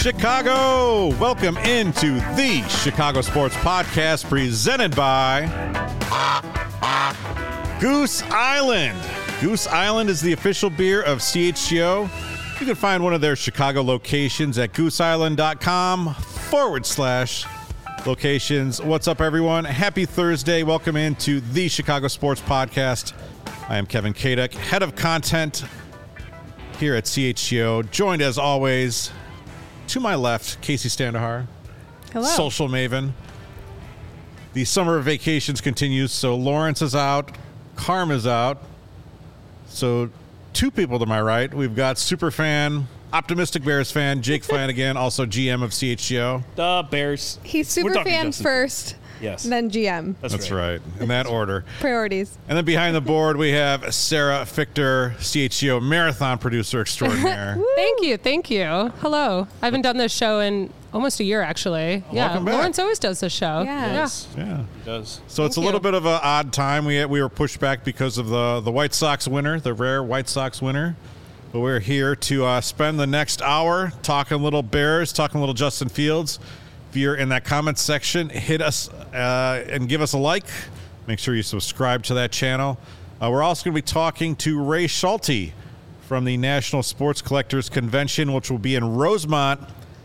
Chicago! Welcome into the Chicago Sports Podcast presented by Goose Island. Goose Island is the official beer of CHGO. You can find one of their Chicago locations at gooseisland.com/locations. What's up, everyone? Happy Thursday. Welcome into the Chicago Sports Podcast. I am Kevin Kadek, head of content here at CHGO, joined as always to my left, Casey Standahar. Hello. Social maven. The summer vacations continues, so Lawrence is out, Carm is out. So two people to my right. We've got super fan, optimistic Bears fan, Jake Flanagan, also GM of CHGO. The Bears. He's super fan first, yes, then GM. That's right. In that order. Priorities. And then behind the board, we have Sarah Fichter, CHGO marathon producer extraordinaire. Thank you. Hello. I haven't done this show in almost a year, actually. Welcome back. Lawrence always does this show. Yeah. Yeah. He does. So it's a little bit of an odd time. We were pushed back because of the White Sox winner, the rare White Sox winner. But we're here to spend the next hour talking little Bears, talking little Justin Fields. If you're in that comment section, hit us and give us a like. Make sure you subscribe to that channel. We're also going to be talking to Ray Schulte from the National Sports Collectors Convention, which will be in Rosemont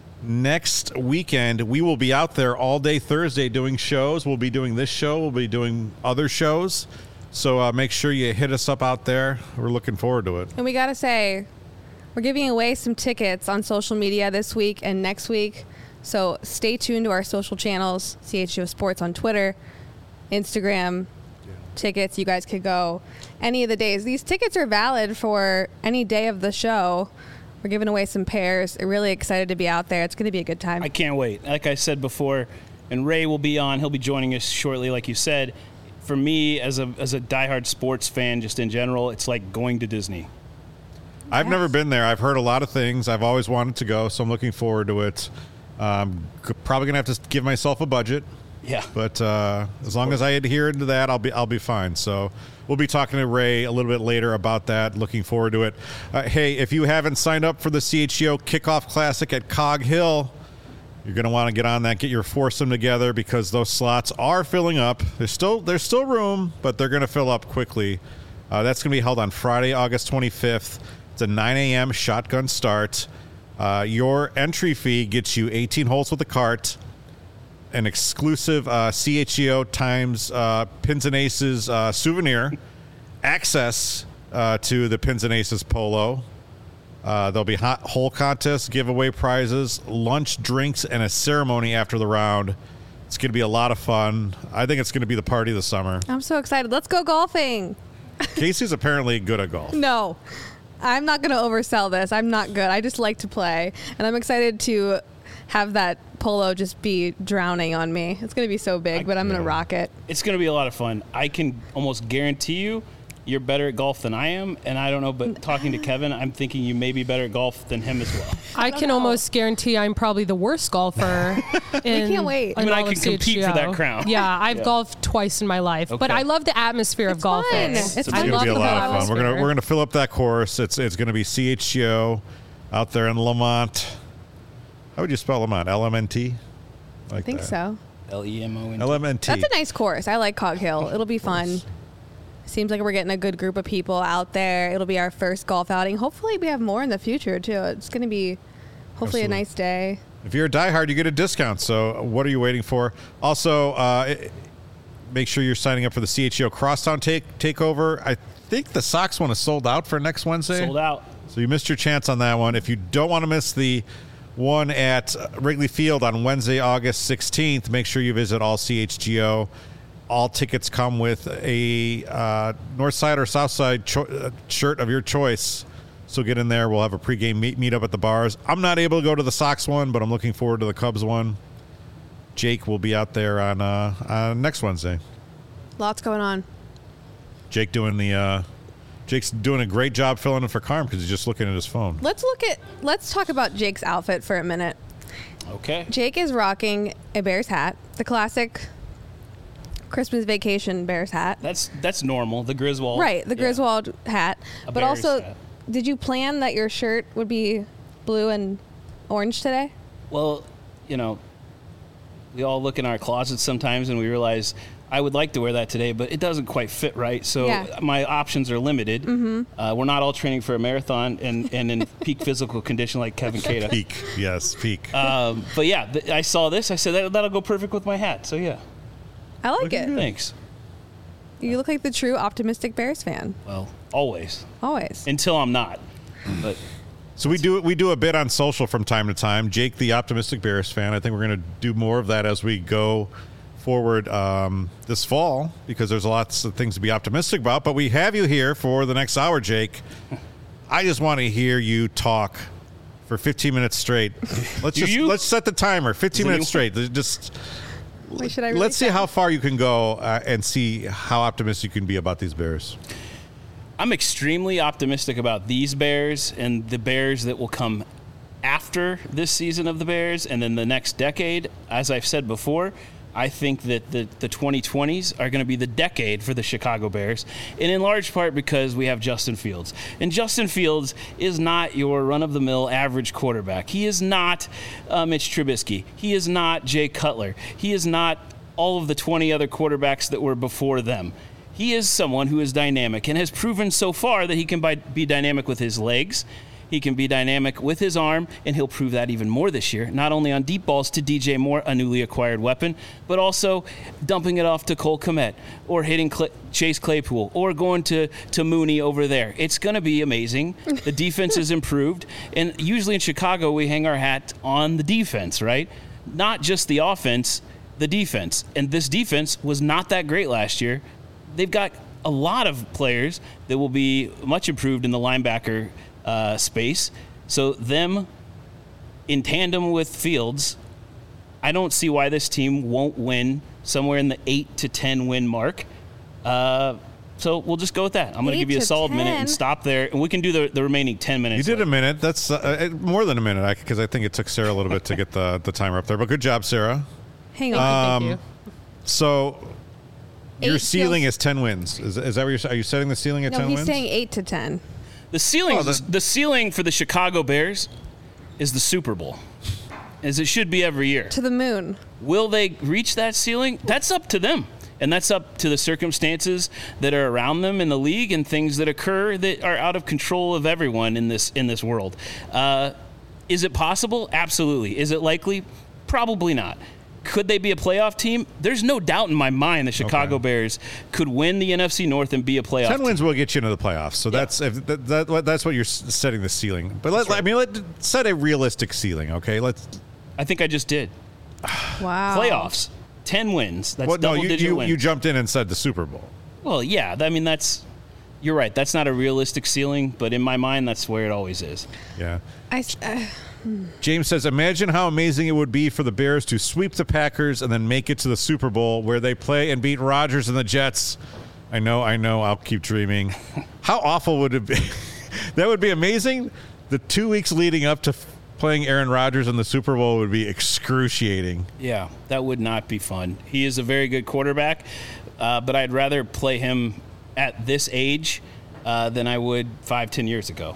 next weekend. We will be out there all day Thursday doing shows. We'll be doing this show. We'll be doing other shows. So make sure you hit us up out there. We're looking forward to it. And we got to say, we're giving away some tickets on social media this week and next week. So stay tuned to our social channels, CHGO Sports on Twitter, Instagram. Tickets, you guys could go any of the days. These tickets are valid for any day of the show. We're giving away some pairs. We're really excited to be out there. It's going to be a good time. I can't wait. Like I said before, and Ray will be on. He'll be joining us shortly, like you said. For me, as a diehard sports fan, just in general, it's like going to Disney. I've never been there. I've heard a lot of things. I've always wanted to go, so I'm looking forward to it. Probably going to have to give myself a budget. Yeah. But as long as I adhere to that, I'll be fine. So we'll be talking to Ray a little bit later about that. Looking forward to it. Hey, if you haven't signed up for the CHGO Kickoff Classic at Cog Hill, you're going to want to get on that, get your foursome together because those slots are filling up. There's still room, but they're going to fill up quickly. That's going to be held on Friday, August 25th. It's a 9 a.m. shotgun start. Your entry fee gets you 18 holes with a cart, an exclusive CHGO times Pins and Aces souvenir, access to the Pins and Aces polo. There'll be hole contests, giveaway prizes, lunch, drinks, and a ceremony after the round. It's going to be a lot of fun. I think it's going to be the party of the summer. I'm so excited. Let's go golfing. Casey's apparently good at golf. No, I'm not going to oversell this. I'm not good. I just like to play. And I'm excited to have that polo just be drowning on me. It's going to be so big, but I'm going to rock it. It's going to be a lot of fun. I can almost guarantee you you're better at golf than I am, and I don't know, but talking to Kevin, I'm thinking you may be better at golf than him as well. I can almost guarantee I'm probably the worst golfer. Can't wait. I mean, I can compete for that crown. Yeah, I've golfed twice in my life, but I love the atmosphere of golfing. It's It's going to be a lot of fun. We're going to fill up that course. It's going to be CHGO out there in Lamont. How would you spell Lamont? LMNT? I think so. LEMONT. LMNT. That's a nice course. I like Cog Hill. It'll be fun. Seems like we're getting a good group of people out there. It'll be our first golf outing. Hopefully we have more in the future, too. It's going to be hopefully a nice day. If you're a diehard, you get a discount. So what are you waiting for? Also, make sure you're signing up for the CHGO Crosstown Takeover. I think the Sox one is sold out for next Wednesday. Sold out. So you missed your chance on that one. If you don't want to miss the one at Wrigley Field on Wednesday, August 16th, make sure you visit All CHGO. All tickets come with a North Side or South Side shirt of your choice. So get in there. We'll have a pregame meet up at the bars. I'm not able to go to the Sox one, but I'm looking forward to the Cubs one. Jake will be out there on next Wednesday. Lots going on. Jake's doing a great job filling in for Carm because he's just looking at his phone. Let's talk about Jake's outfit for a minute. Okay. Jake is rocking a Bears hat, the classic Christmas vacation Bears hat. That's normal. The Griswold. Right, the Griswold hat. A but Bears also, hat. did you plan that your shirt would be blue and orange today? Well, we all look in our closets sometimes and we realize I would like to wear that today, but it doesn't quite fit right. So my options are limited. Mm-hmm. We're not all training for a marathon and in peak physical condition like Kevin Keita. Peak, yes, peak. But yeah, I saw this. I said that'll go perfect with my hat. So yeah, I like it. Thanks. You look like the true optimistic Bears fan. Well, always. Always. Until I'm not. But so we do a bit on social from time to time. Jake, the optimistic Bears fan. I think we're going to do more of that as we go forward this fall, because there's lots of things to be optimistic about. But we have you here for the next hour, Jake. I just want to hear you talk for 15 minutes straight. Let's set the timer. 15 minutes straight. Just Wait, should I really let's see how far you can go and see how optimistic you can be about these Bears. I'm extremely optimistic about these Bears and the Bears that will come after this season of the Bears and then the next decade. As I've said before, I think that the 2020s are going to be the decade for the Chicago Bears, and in large part because we have Justin Fields. And Justin Fields is not your run-of-the-mill average quarterback. He is not Mitch Trubisky. He is not Jay Cutler. He is not all of the 20 other quarterbacks that were before them. He is someone who is dynamic and has proven so far that he can be dynamic with his legs. He can be dynamic with his arm, and he'll prove that even more this year, not only on deep balls to DJ Moore, a newly acquired weapon, but also dumping it off to Cole Kmet or hitting Chase Claypool or going to Mooney over there. It's going to be amazing. The defense is improved, and usually in Chicago we hang our hat on the defense, right? Not just the offense, the defense. And this defense was not that great last year. They've got a lot of players that will be much improved in the linebacker space. So them in tandem with Fields, I don't see why this team won't win somewhere in the 8 to 10 win mark. So we'll just go with that. I'm going to give you a solid minute and stop there, and we can do the remaining 10 minutes. You did a minute. That's more than a minute, because I think it took Sarah a little bit to get the timer up there. But good job, Sarah. Hang on. Thank you. So your ceiling is 10 wins. Is that what are you setting the ceiling at 10 wins? No, he's saying 8 to 10. The ceiling for the Chicago Bears is the Super Bowl, as it should be every year. To the moon. Will they reach that ceiling? That's up to them. And that's up to the circumstances that are around them in the league and things that occur that are out of control of everyone in this world. Is it possible? Absolutely. Is it likely? Probably not. Could they be a playoff team? There's no doubt in my mind the Chicago Bears could win the NFC North and be a playoff 10 wins team. Will get you into the playoffs. So that's what you're setting the ceiling. But let's set a realistic ceiling, okay? I think I just did. Wow. Playoffs. 10 wins. That's double-digit wins. You jumped in and said the Super Bowl. Well, yeah. I mean, you're right. That's not a realistic ceiling, but in my mind, that's where it always is. Yeah. James says, imagine how amazing it would be for the Bears to sweep the Packers and then make it to the Super Bowl where they play and beat Rodgers and the Jets. I know. I'll keep dreaming. How awful would it be? That would be amazing. The 2 weeks leading up to playing Aaron Rodgers in the Super Bowl would be excruciating. Yeah, that would not be fun. He is a very good quarterback, but I'd rather play him at this age than I would 5-10 years ago.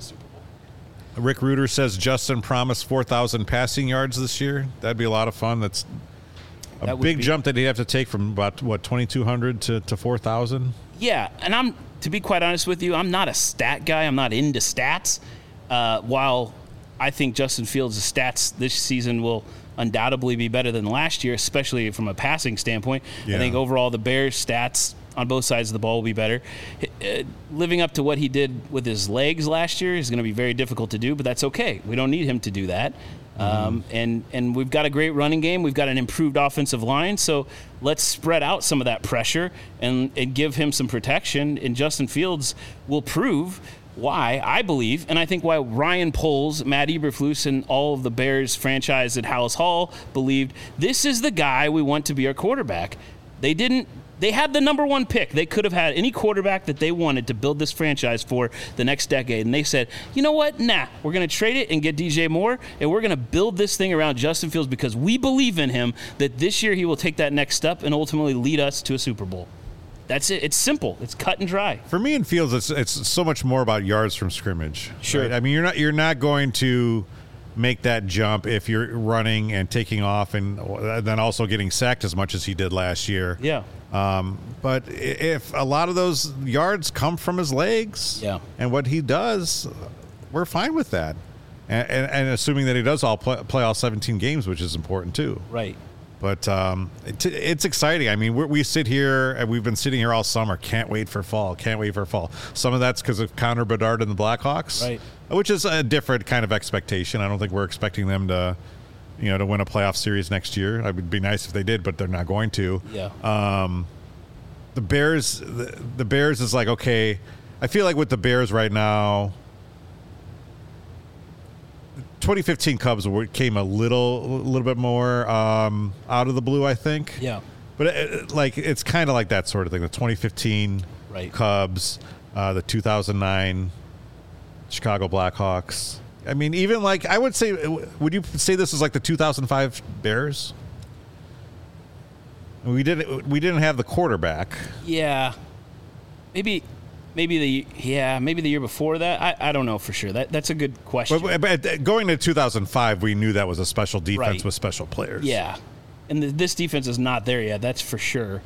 Rick Reuter says Justin promised 4,000 passing yards this year. That'd be a lot of fun. That's a big jump that he'd have to take from about, 2,200 to 4,000? Yeah, and to be quite honest with you, I'm not a stat guy. I'm not into stats. While I think Justin Fields' stats this season will undoubtedly be better than last year, especially from a passing standpoint. Yeah. I think overall the Bears' stats on both sides of the ball will be better. Living up to what he did with his legs last year is going to be very difficult to do, but that's okay. We don't need him to do that. And we've got a great running game. We've got an improved offensive line, so let's spread out some of that pressure and give him some protection. And Justin Fields will prove why, I believe, and I think why Ryan Poles, Matt Eberflus, and all of the Bears franchise at Hallis Hall believed this is the guy we want to be our quarterback. They had the number one pick. They could have had any quarterback that they wanted to build this franchise for the next decade. And they said, you know what? Nah, we're going to trade it and get DJ Moore, and we're going to build this thing around Justin Fields because we believe in him that this year he will take that next step and ultimately lead us to a Super Bowl. That's it. It's simple. It's cut and dry. For me in Fields, it's so much more about yards from scrimmage. Sure. Right? I mean, you're not going to make that jump if you're running and taking off and then also getting sacked as much as he did last year. Yeah. But if a lot of those yards come from his legs and what he does, we're fine with that. And assuming that he does play all 17 games, which is important too. Right. But it's exciting. I mean, we sit here, and we've been sitting here all summer. Can't wait for fall. Can't wait for fall. Some of that's because of Connor Bedard and the Blackhawks, right? Which is a different kind of expectation. I don't think we're expecting them to, to win a playoff series next year. It would be nice if they did, but they're not going to. Yeah. The Bears is like, okay. I feel like with the Bears right now, 2015 Cubs came a little bit more out of the blue, I think. Yeah. But it's kind of like that sort of thing. The 2015 Cubs, the 2009 Chicago Blackhawks. I mean, even like I would say, would you say this is like the 2005 Bears? We didn't have the quarterback. Yeah. Maybe the year before that. I don't know for sure. That's a good question. But going to 2005, we knew that was a special defense with special players. Yeah, and this defense is not there yet. That's for sure.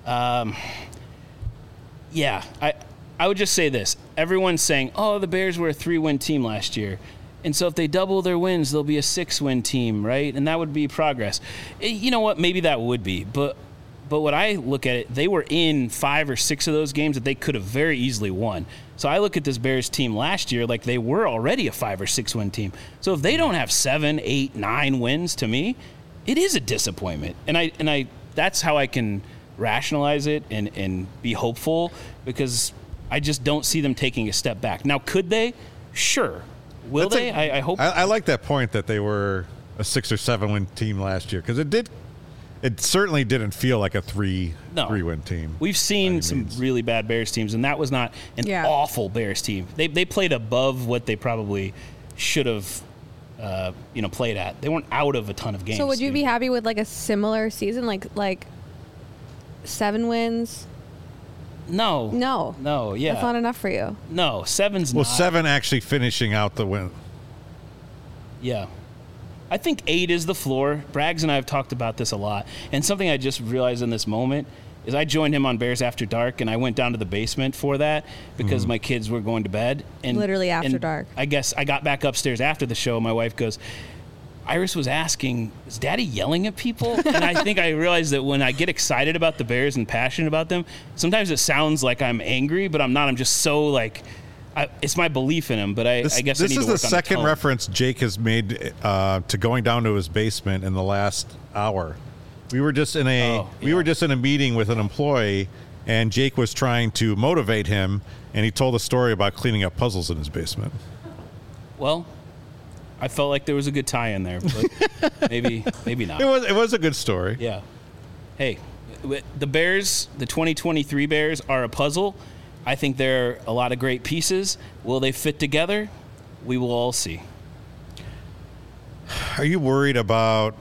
Yeah, I would just say this. Everyone's saying, "Oh, the Bears were a 3-win team last year." And so if they double their wins, they'll be a 6-win team, right? And that would be progress. You know what? Maybe that would be. But what I look at it, they were in 5 or 6 of those games that they could have very easily won. So I look at this Bears team last year like they were already a 5 or 6 win team. So if they don't have 7, 8, 9 wins, to me, it is a disappointment. And I that's how I can rationalize it and be hopeful, because I just don't see them taking a step back. Now, could they? Sure. Will they? I hope. I like that point that they were a 6 or 7 win team last year, because it certainly didn't feel like a 3-win team. We've seen some really bad Bears teams, and that was not an awful Bears team. They played above what they probably should have played at. They weren't out of a ton of games. So would you be happy with like a similar season, like 7 wins? No. Yeah, that's not enough for you. No, 7's not. Well, 7 actually finishing out the win. Yeah. I think 8 is the floor. Braggs and I have talked about this a lot. And something I just realized in this moment is I joined him on Bears After Dark, and I went down to the basement for that because my kids were going to bed. And literally after dark. I guess I got back upstairs after the show. My wife goes, Iris was asking, is Daddy yelling at people? And I think I realized that when I get excited about the Bears and passionate about them, sometimes it sounds like I'm angry, but I'm not. I'm just so like... it's my belief in him, but I guess I need to work on the tone. This is the second reference Jake has made to going down to his basement in the last hour. We were just in a meeting with an employee, and Jake was trying to motivate him, and he told a story about cleaning up puzzles in his basement. Well, I felt like there was a good tie in there, but maybe not. It was a good story. Yeah. Hey, the Bears, the 2023 Bears are a puzzle. I think there are a lot of great pieces. Will they fit together? We will all see. Are you worried about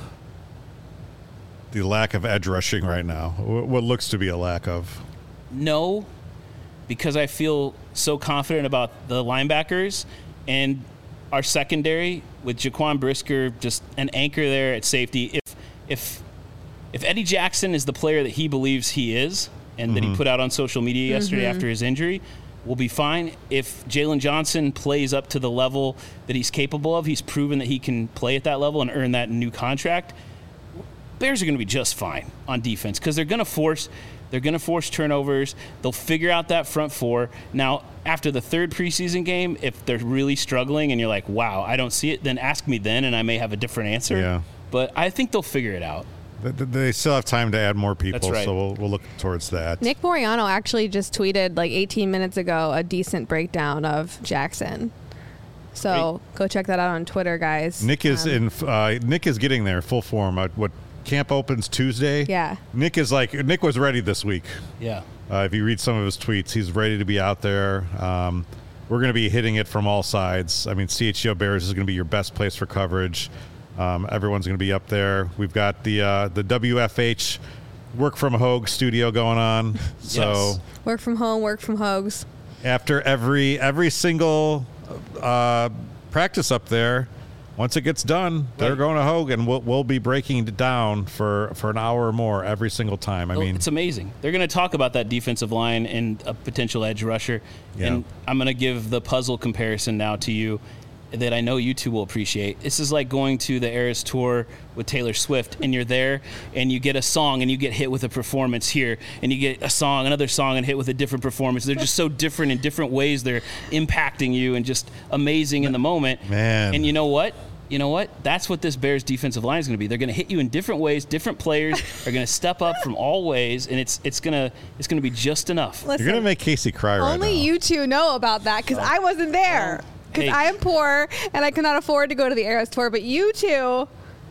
the lack of edge rushing right now? What looks to be a lack of? No, because I feel so confident about the linebackers and our secondary with Jaquan Brisker, just an anchor there at safety. If Eddie Jackson is the player that he believes he is, and that he put out on social media yesterday after his injury, we'll be fine. If Jalen Johnson plays up to the level that he's capable of, he's proven that he can play at that level and earn that new contract, Bears are going to be just fine on defense, because they're going to force turnovers. They'll figure out that front four. Now, after the 3rd preseason game, if they're really struggling and you're like, wow, I don't see it, then ask me then, and I may have a different answer. Yeah. But I think they'll figure it out. They still have time to add more people, That's right. So we'll look towards that. Nick Moriano actually just tweeted like 18 minutes ago a decent breakdown of Jackson. So go check that out on Twitter, guys. Nick is Nick is getting there full form. What camp opens Tuesday? Yeah. Nick was ready this week. Yeah. If you read some of his tweets, he's ready to be out there. We're going to be hitting it from all sides. I mean, CHGO Bears is going to be your best place for coverage. Everyone's going to be up there. We've got the WFH work from Hogue studio going on. So Yes. Work from home, work from Hogues. after every single practice up there, once it gets done, they're going to Hogue, and we'll be breaking it down for an hour or more every single time. I mean, it's amazing. They're going to talk about that defensive line and a potential edge rusher. Yeah. And I'm going to give the puzzle comparison now to you that I know you two will appreciate. This is like going to the Eras Tour with Taylor Swift, and you're there, and you get a song, and you get hit with a performance here, and you get a song, another song, and hit with a different performance. They're just so different in different ways. They're impacting you and just amazing in the moment. Man. And you know what? That's what this Bears defensive line is going to be. They're going to hit you in different ways. Different players are going to step up from all ways, and it's going to be just enough. Listen, you're going to make Casey cry right now. only you two know about that because I wasn't there. Because Hey. I am poor and I cannot afford to go to the Eras Tour, but you two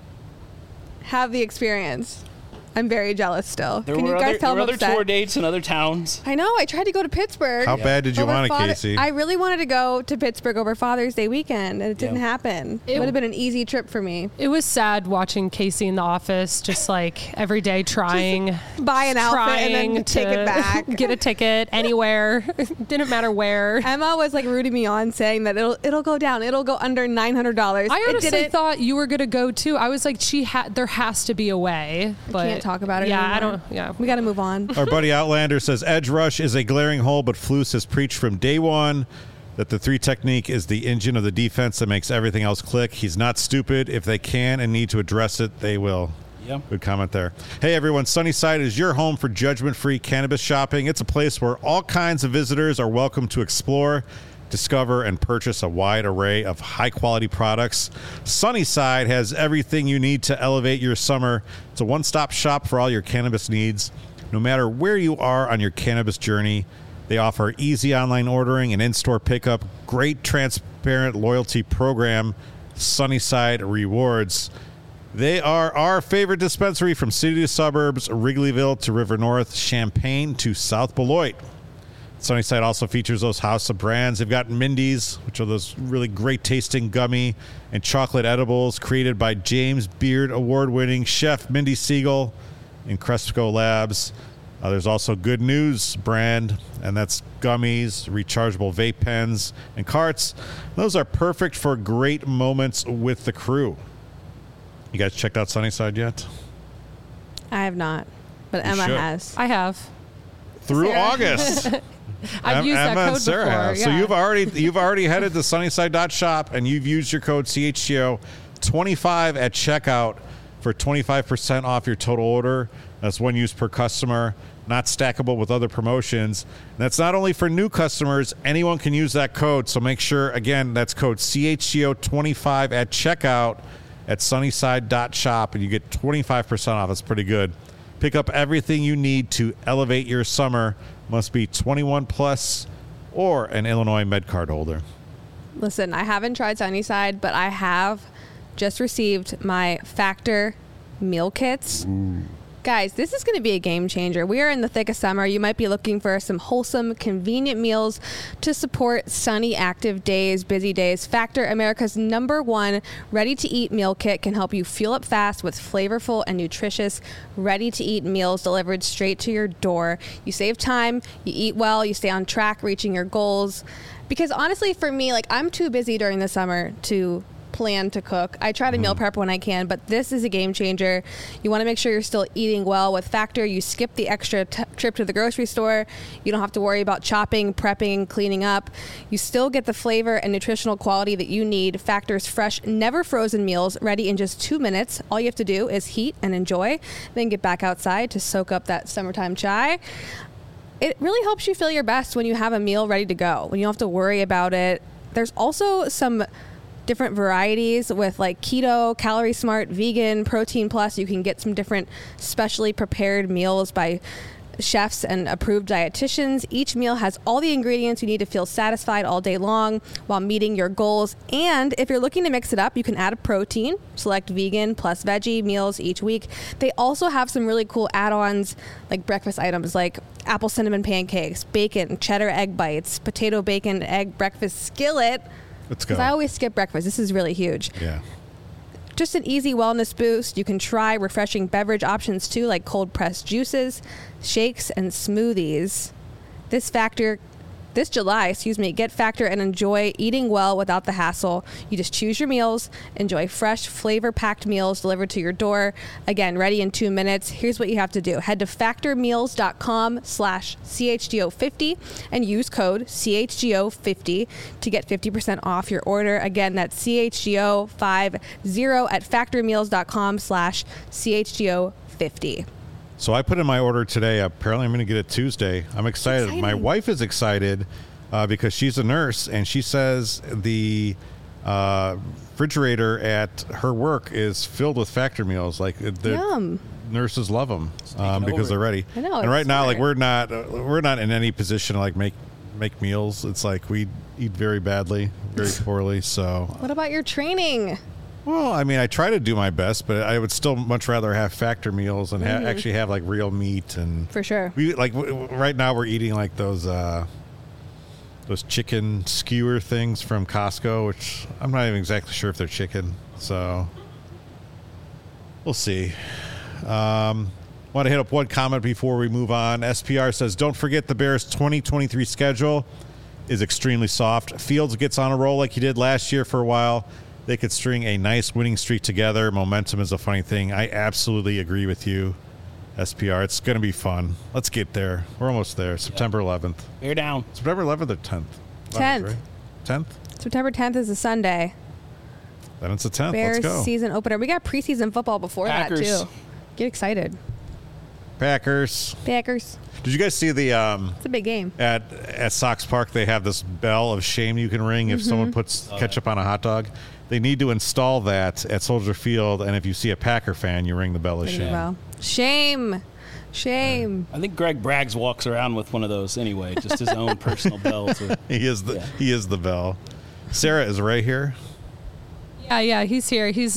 have the experience. I'm very jealous still. There Can were you guys other, tell there were I'm other upset? tour dates in other towns. I know. I tried to go to Pittsburgh. How bad did you over want it, Father- Casey? I really wanted to go to Pittsburgh over Father's Day weekend, and it didn't happen. It It- would have been an easy trip for me. It was sad watching Casey in the office, just like every day trying, Buy an outfit and then trying take it back. get a ticket anywhere. Didn't matter where. Emma was like rooting me on, saying that it'll go down. It'll go under $900. I It honestly didn't. thought you were gonna go too. I was like, there has to be a way. But Can't talk about it Yeah, anymore. I don't. Yeah, We got to move on. Our buddy Outlander says edge rush is a glaring hole, but Flus has preached from day one that the 3 technique is the engine of the defense that makes everything else click. He's not stupid. If they can and need to address it, they will. Yep. Good comment there. Hey, everyone. Sunnyside is your home for judgment-free cannabis shopping. It's a place where all kinds of visitors are welcome to explore, discover, and purchase a wide array of high-quality products. Sunnyside has everything you need to elevate your summer. It's a one-stop shop for all your cannabis needs. No matter where you are on your cannabis journey, they offer easy online ordering and in-store pickup, great transparent loyalty program, Sunnyside Rewards. They are our favorite dispensary from city to suburbs, Wrigleyville to River North, Champaign to South Beloit. Sunnyside also features those house of brands. They've got Mindy's, which are those really great tasting gummy and chocolate edibles created by James Beard award-winning chef Mindy Siegel in Cresco Labs. There's also Good News brand, and that's gummies, rechargeable vape pens, and carts. Those are perfect for great moments with the crew. You guys checked out Sunnyside yet? I have not, but You Emma should. has. I have. Through Sarah. August. I've used that Emma code and Sarah before. have. Yeah. So you've already headed to sunnyside.shop and you've used your code CHGO25 at checkout for 25% off your total order. That's one use per customer, not stackable with other promotions. And that's not only for new customers, anyone can use that code. So make sure, again, that's code CHGO25 at checkout at sunnyside.shop and you get 25% off. That's pretty good. Pick up everything you need to elevate your summer. Must be 21 plus or an Illinois MedCard holder. Listen, I haven't tried Sunnyside, but I have just received my Factor meal kits. Guys, this is going to be a game changer. We are in the thick of summer. You might be looking for some wholesome, convenient meals to support sunny, active days, busy days. Factor, America's #1 ready-to-eat meal kit, can help you fuel up fast with flavorful and nutritious ready-to-eat meals delivered straight to your door. You save time, you eat well, you stay on track reaching your goals. Because honestly, for me, like, I'm too busy during the summer to plan to cook. I try to meal prep when I can, but this is a game changer. You want to make sure you're still eating well. With Factor, you skip the extra trip to the grocery store. You don't have to worry about chopping, prepping, cleaning up. You still get the flavor and nutritional quality that you need. Factor's fresh, never frozen meals ready in just 2 minutes. All you have to do is heat and enjoy, then get back outside to soak up that summertime chai. It really helps you feel your best when you have a meal ready to go, when you don't have to worry about it. There's also some different varieties with like keto, calorie smart, vegan, protein plus. You can get some different specially prepared meals by chefs and approved dietitians. Each meal has all the ingredients you need to feel satisfied all day long while meeting your goals. And if you're looking to mix it up, you can add a protein, select vegan plus veggie meals each week. They also have some really cool add-ons like breakfast items like apple cinnamon pancakes, bacon, cheddar egg bites, potato bacon egg breakfast skillet. Let's go. Because I always skip breakfast. This is really huge. Yeah. Just an easy wellness boost. You can try refreshing beverage options too, like cold pressed juices, shakes, and smoothies. This This July, get Factor and enjoy eating well without the hassle. You just choose your meals, enjoy fresh, flavor-packed meals delivered to your door. Again, ready in 2 minutes. Here's what you have to do. Head to factormeals.com/CHGO50 and use code CHGO50 to get 50% off your order. Again, that's CHGO50 at factormeals.com/CHGO50. So I put in my order today. Apparently, I'm going to get it Tuesday. I'm excited. Exciting. My wife is excited because she's a nurse, and she says the refrigerator at her work is filled with Factor meals. Like the Yum. nurses love them because over. they're ready. I know, And it's right now, like smart. we're not in any position to like make meals. It's like we eat very badly, very poorly. So. What about your training? Well, I mean, I try to do my best, but I would still much rather have Factor meals and actually have like real meat and For sure. we like right now we're eating like those chicken skewer things from Costco, which I'm not even exactly sure if they're chicken. So we'll see. Want to hit up one comment before we move on. SPR says, "Don't forget the Bears' 2023 schedule is extremely soft. Fields gets on a roll like he did last year for a while. They could string a nice winning streak together. Momentum is a funny thing." I absolutely agree with you, SPR. It's going to be fun. Let's get there. We're almost there. September 11th. Bear down. September 11th or 10th? 10th. Right? 10th? September 10th is a Sunday. Then it's the 10th. Bears Let's go. season opener. We got preseason football before Packers. that, too. Get excited. Packers. Packers. Did you guys see the It's a big game. at Sox Park? They have this bell of shame you can ring if someone puts ketchup on a hot dog. They need to install that at Soldier Field, and if you see a Packer fan, you ring the bell of Ring the shame. bell. Shame. Shame. I think Greg Braggs walks around with one of those anyway, just his own personal bell. He is the bell. Sarah, is Ray here? Yeah, he's here. He's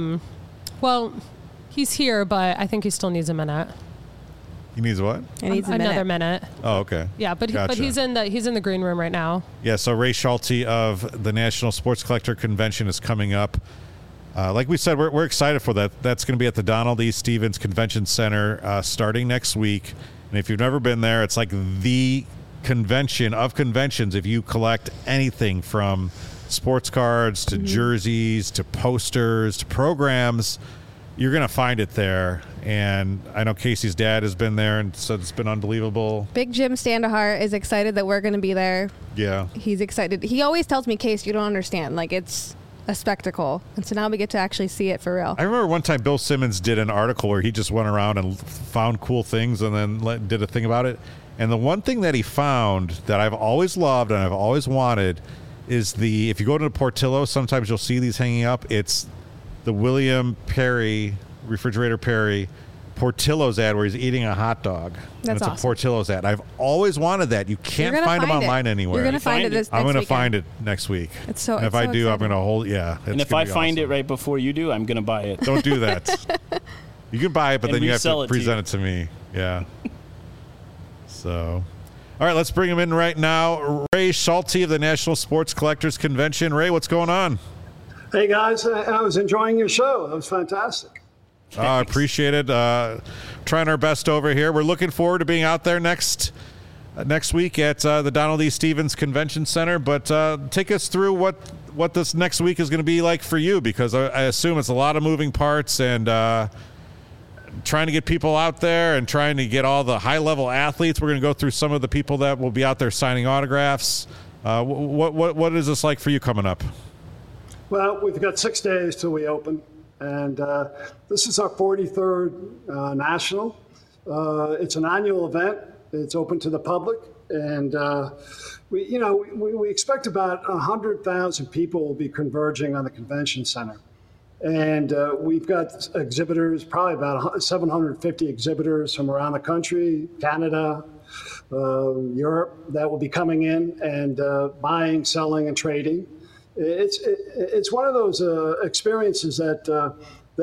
he's here, but I think he still needs a minute. He needs what? It needs a Another minute. minute. Oh, okay. Yeah, but Gotcha. he's in the green room right now. Yeah, so Ray Schulte of the National Sports Collector Convention is coming up. Like we said, we're excited for that. That's going to be at the Donald E. Stevens Convention Center starting next week. And if you've never been there, it's like the convention of conventions. If you collect anything from sports cards to jerseys to posters to programs, you're going to find it there. And I know Casey's dad has been there and said it's been unbelievable. Big Jim Standahar is excited that we're going to be there. Yeah. He's excited. He always tells me, Case, you don't understand. Like, it's a spectacle. And so now we get to actually see it for real. I remember one time Bill Simmons did an article where he just went around and found cool things and then did a thing about it. And the one thing that he found that I've always loved and I've always wanted is if you go to Portillo, sometimes you'll see these hanging up. It's the William Perry, Refrigerator Perry, Portillo's ad where he's eating a hot dog. That's and it's awesome. a Portillo's ad. I've always wanted that. You can't You're gonna find them find it. online anywhere. You're going to find it Find it. this I'm going to find it next week. It's so- And if it's I so do, I'm exciting. going to hold. Yeah. And if I find it right before you do, I'm going to buy it. Don't do that. You can buy it, but And then you have resell to it to present you. it to me. Yeah. So, all right, let's bring him in right now. Ray Schulte of the National Sports Collectors Convention. Ray, what's going on? Hey guys, I was enjoying your show. That was fantastic. I appreciate it. Trying our best over here. We're looking forward to being out there next week at the Donald E. Stevens Convention Center. But take us through what this next week is going to be like for you, because I assume it's a lot of moving parts and trying to get people out there and trying to get all the high-level athletes. We're going to go through some of the people that will be out there signing autographs. What is this like for you coming up? Well, we've got 6 days till we open, and this is our 43rd national. It's an annual event. It's open to the public, and we expect about 100,000 people will be converging on the convention center. And we've got exhibitors, probably about 750 exhibitors from around the country, Canada, Europe, that will be coming in and buying, selling, and trading. It's one of those experiences that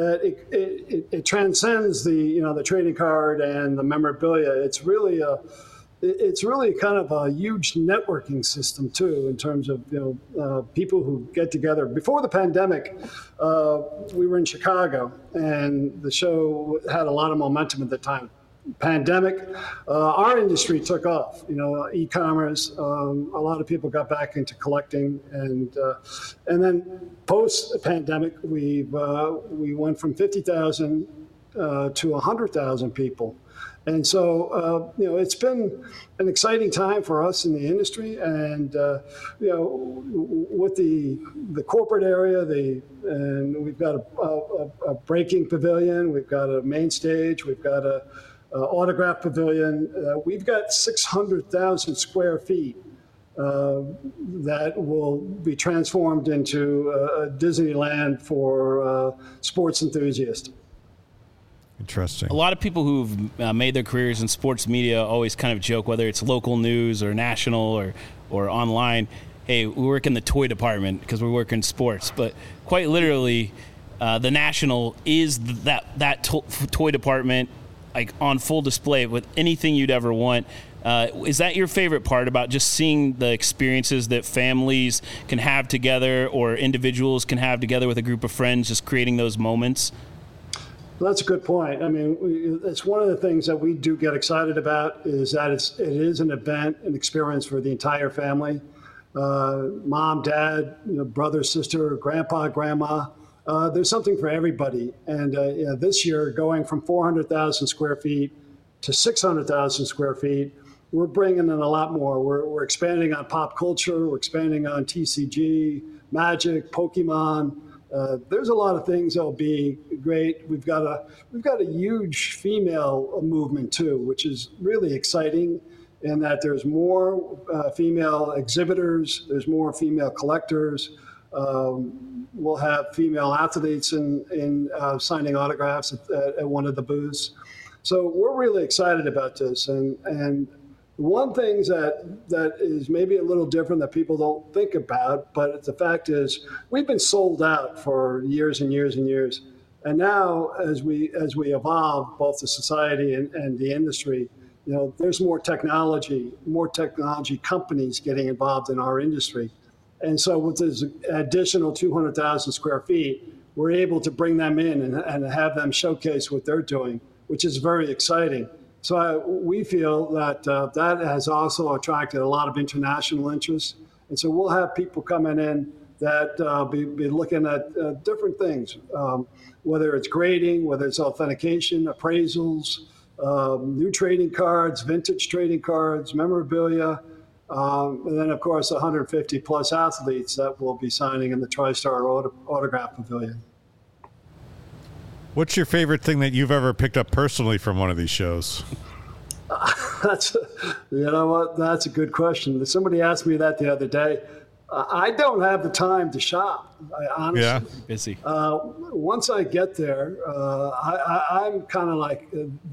it transcends the trading card and the memorabilia. It's really kind of a huge networking system too, in terms of people who get together. Before the pandemic, we were in Chicago, and the show had a lot of momentum at the time. pandemic, our industry took off. E-commerce. A lot of people got back into collecting, and then post-pandemic, we went from 50,000 to 100,000 people. And so, it's been an exciting time for us in the industry. And, with the corporate area, and we've got a breaking pavilion, we've got a main stage, we've got a autograph pavilion. We've got 600,000 square feet that will be transformed into a Disneyland for sports enthusiasts. Interesting. A lot of people who've made their careers in sports media always kind of joke, whether it's local news or national or online, hey, we work in the toy department because we work in sports. But quite literally, the National is that toy department, like on full display with anything you'd ever want. Is that your favorite part about just seeing the experiences that families can have together or individuals can have together with a group of friends, just creating those moments? Well, that's a good point. I mean, it's one of the things that we do get excited about is that it is an event, an experience for the entire family. Mom, dad, brother, sister, grandpa, grandma. There's something for everybody. And this year, going from 400,000 square feet to 600,000 square feet, we're bringing in a lot more. We're expanding on pop culture. We're expanding on TCG, Magic, Pokemon. There's a lot of things that'll be great. We've got a huge female movement too, which is really exciting. In that there's more female exhibitors, there's more female collectors. We'll have female athletes in signing autographs at one of the booths. So we're really excited about this. And one thing that is maybe a little different that people don't think about, but the fact is we've been sold out for years and years and years. And now as we evolve, both the society and the industry, there's more technology companies getting involved in our industry. And so with this additional 200,000 square feet, we're able to bring them in and have them showcase what they're doing, which is very exciting. So we feel that that has also attracted a lot of international interest. And so we'll have people coming in that be looking at different things, whether it's grading, whether it's authentication, appraisals, new trading cards, vintage trading cards, memorabilia, and then, of course, 150 plus athletes that will be signing in the TriStar Autograph Pavilion. What's your favorite thing that you've ever picked up personally from one of these shows? That's a good question. Somebody asked me that the other day. I don't have the time to shop. Honestly, yeah, busy. Once I get there, I'm kind of like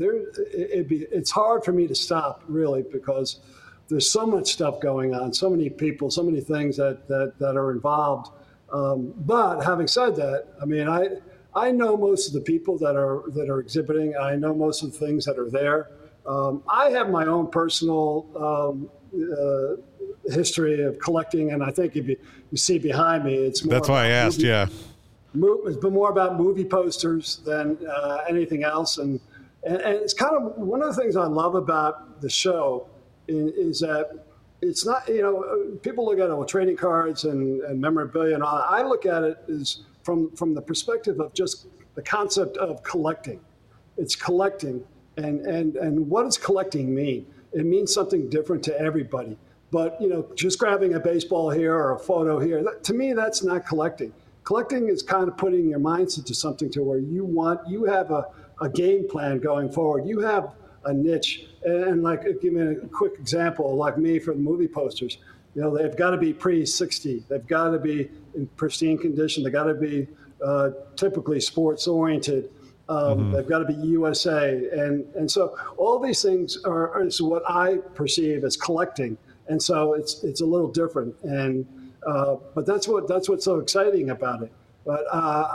it's hard for me to stop really because there's so much stuff going on, so many people, so many things that are involved. But having said that, I mean, I know most of the people that are exhibiting. I know most of the things that are there. I have my own personal history of collecting, and I think if you see behind me, it's more. That's why I asked. Yeah, it's been more about movie posters than anything else, and it's kind of one of the things I love about the show is that it's not people look at trading cards and memorabilia and all that. I look at it as from the perspective of just the concept of collecting. It's collecting, and what does collecting mean? It means something different to everybody. But just grabbing a baseball here or a photo here, to me, that's not collecting. Collecting is kind of putting your minds into something to where you have a game plan going forward. You have a niche, and like give me a quick example, like me for the movie posters. They've got to be pre-60. They've got to be in pristine condition. They've got to be typically sports oriented. They've got to be USA, and so all these things is what I perceive as collecting. And so it's a little different, and but that's what's so exciting about it. But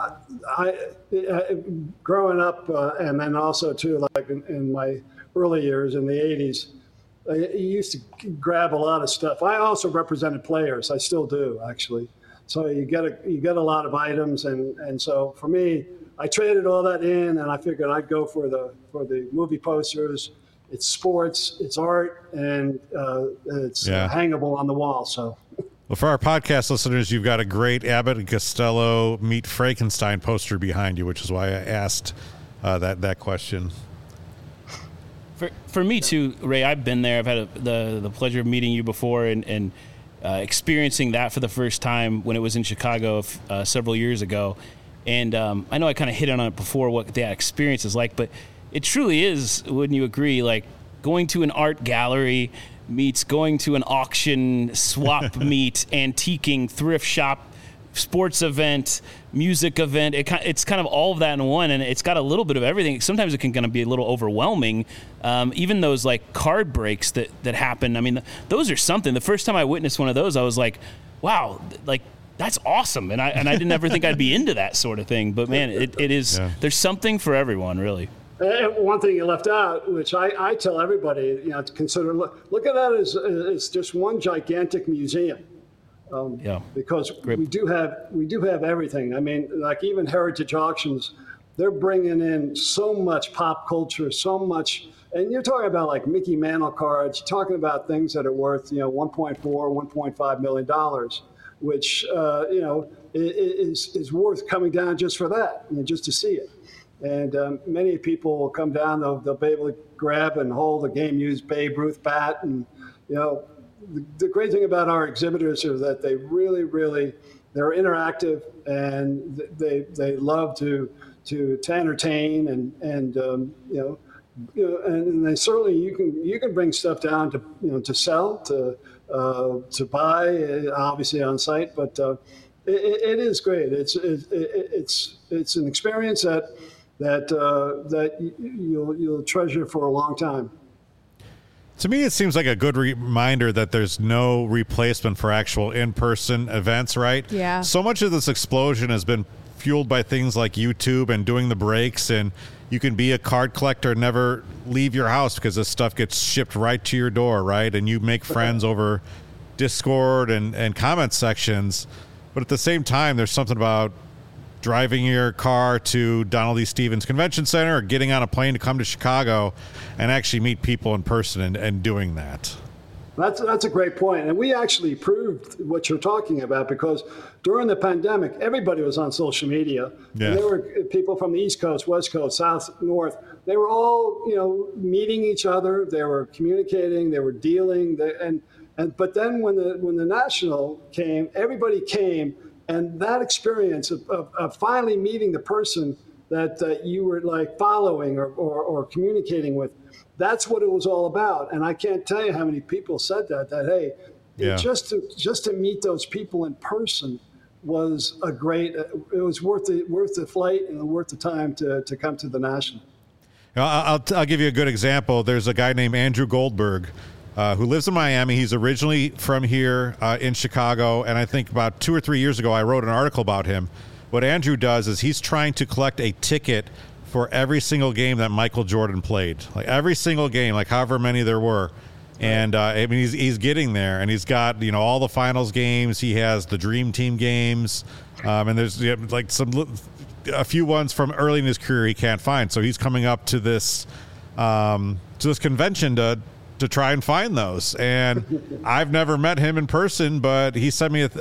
I growing up, and then also too, like in my early years in the '80s, I used to grab a lot of stuff. I also represented players. I still do, actually. So you get a lot of items, and so for me, I traded all that in, and I figured I'd go for the movie posters. It's sports, it's art, and it's hangable on the wall. So. Well, for our podcast listeners, you've got a great Abbott and Costello Meet Frankenstein poster behind you, which is why I asked that question. For me too, Ray, I've been there. I've had the pleasure of meeting you before and experiencing that for the first time when it was in Chicago several years ago. And I know I kind of hit on it before what that experience is like, but it truly is, wouldn't you agree, like going to an art gallery meets going to an auction, swap meet, antiquing, thrift shop, sports event, music event. It's kind of all of that in one, and it's got a little bit of everything. Sometimes it can kind of be a little overwhelming. Even those like card breaks that happen. I mean, those are something. The first time I witnessed one of those, I was like, wow, like that's awesome. And I didn't ever think I'd be into that sort of thing. But man, it is. Yeah. There's something for everyone, really. And one thing you left out, which I tell everybody, to consider, look at that as just one gigantic museum. Because we do have everything. I mean, like even Heritage Auctions, they're bringing in so much pop culture, so much, and you're talking about like Mickey Mantle cards. You're talking about things that are worth, $1.4, $1.5 million, which is worth coming down just for that, just to see it. And many people will come down. They'll be able to grab and hold a game-used Babe Ruth bat. And, the great thing about our exhibitors is that they really, really, they're interactive, and they love to entertain and they certainly, you can bring stuff down to sell, to buy, obviously on site. But it is great. It's an experience that you'll treasure for a long time. To me, it seems like a good reminder that there's no replacement for actual in-person events, right? Yeah. So much of this explosion has been fueled by things like YouTube and doing the breaks, and you can be a card collector and never leave your house because this stuff gets shipped right to your door, right? And you make friends over Discord and comment sections. But at the same time, there's something about driving your car to Donald E. Stephens Convention Center or getting on a plane to come to Chicago and actually meet people in person and doing that. That's a great point. And we actually proved what you're talking about, because during the pandemic, everybody was on social media. Yeah. And there were people from the East Coast, West Coast, South, North. They were all, meeting each other. They were communicating. They were dealing. But then when the National came, everybody came. And that experience of finally meeting the person that you were like following or communicating with, that's what it was all about. And I can't tell you how many people said that hey, just to meet those people in person was it was worth the flight and worth the time to come to the National. I'll give you a good example. There's a guy named Andrew Goldberg who lives in Miami. He's originally from here in Chicago, and I think about 2 or 3 years ago I wrote an article about him. What Andrew does is he's trying to collect a ticket for every single game that Michael Jordan played, like every single game, like however many there were. And I mean, he's getting there, and he's got all the finals games. He has the Dream Team games, and there's like a few ones from early in his career he can't find. So he's coming up to this convention to try and find those. And I've never met him in person, but he sent me a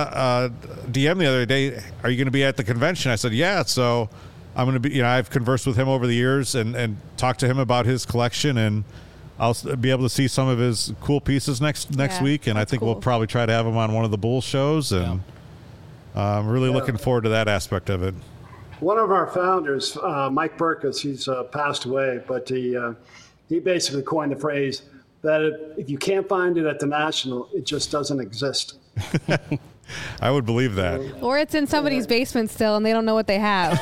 DM the other day. Are you going to be at the convention? I said, yeah. So I'm going to be, I've conversed with him over the years and talked to him about his collection, and I'll be able to see some of his cool pieces next week. And I think we'll probably try to have him on one of the Bulls shows. And I'm really looking forward to that aspect of it. One of our founders, Mike Burkus, he's passed away, but he basically coined the phrase that if you can't find it at the National, it just doesn't exist. I would believe that. Or it's in somebody's basement still and they don't know what they have.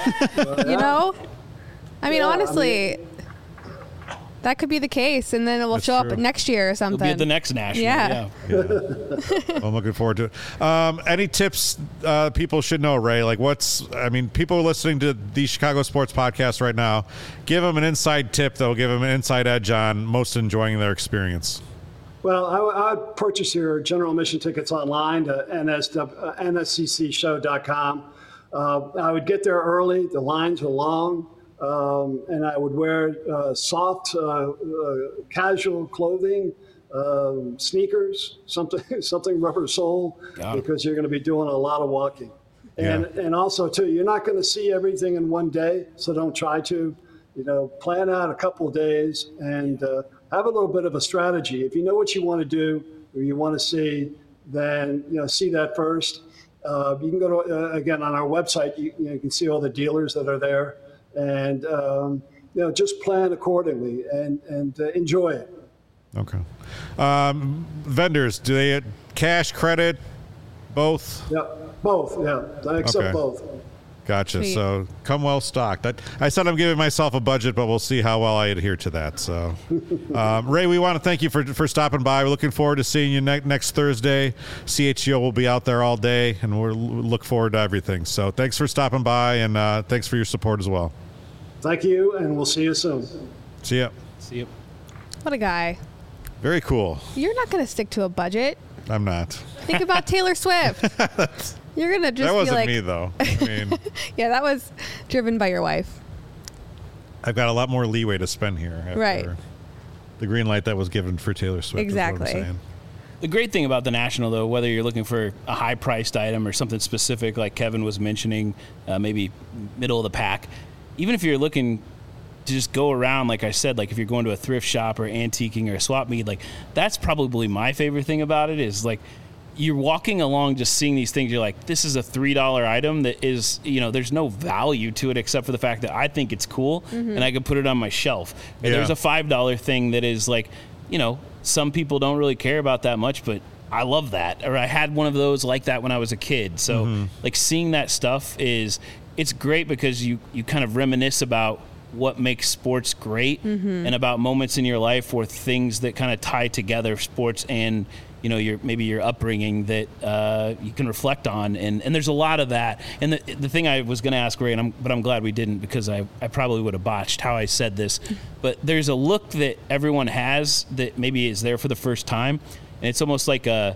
I mean, honestly, that could be the case, and then it will show up next year or something. It'll be at the next National. Yeah. I'm looking forward to it. Any tips people should know, Ray? Like people are listening to the Chicago Sports Podcast right now. Give them an inside tip that will give them an inside edge on most enjoying their experience. Well, I would purchase your general admission tickets online to nsccshow.com. I would get there early. The lines were long. And I would wear soft, casual clothing, sneakers, something rubber sole, because you're going to be doing a lot of walking. And also, too, you're not going to see everything in one day, so don't try to. Plan out a couple of days and have a little bit of a strategy. If you know what you want to do or you want to see, then see that first. You can go to again on our website. You can see all the dealers that are there, and just plan accordingly and enjoy it. Okay. Vendors, do they cash, credit, both? Yeah, both. Yeah, I accept both. Gotcha. Sweet. So come well stocked. I said I'm giving myself a budget, but we'll see how well I adhere to that. So, Ray, we want to thank you for stopping by. We're looking forward to seeing you next Thursday. CHGO will be out there all day, and we'll look forward to everything. So thanks for stopping by, and thanks for your support as well. Thank you, and we'll see you soon. See ya. See you. What a guy. Very cool. You're not going to stick to a budget. I'm not. Think about Taylor Swift. You're going to just That wasn't be like, me, though. I mean, yeah, that was driven by your wife. I've got a lot more leeway to spend here. After Right. The green light that was given for Taylor Swift. Exactly. Is what I'm saying. The great thing about the National, though, whether you're looking for a high-priced item or something specific, like Kevin was mentioning, maybe middle of the pack, even if you're looking to just go around, like I said, like if you're going to a thrift shop or antiquing or a swap meet, like that's probably my favorite thing about it is like you're walking along just seeing these things. You're like, this is a $3 item that is, there's no value to it except for the fact that I think it's cool and I can put it on my shelf. Or there's a $5 thing that is like, some people don't really care about that much, but I love that. Or I had one of those like that when I was a kid. So like seeing that stuff it's great because you kind of reminisce about what makes sports great and about moments in your life or things that kind of tie together sports and your upbringing that you can reflect on, and there's a lot of that. And the thing I was going to ask Ray, but I'm glad we didn't because I probably would have botched how I said this, but there's a look that everyone has that maybe is there for the first time, and it's almost like a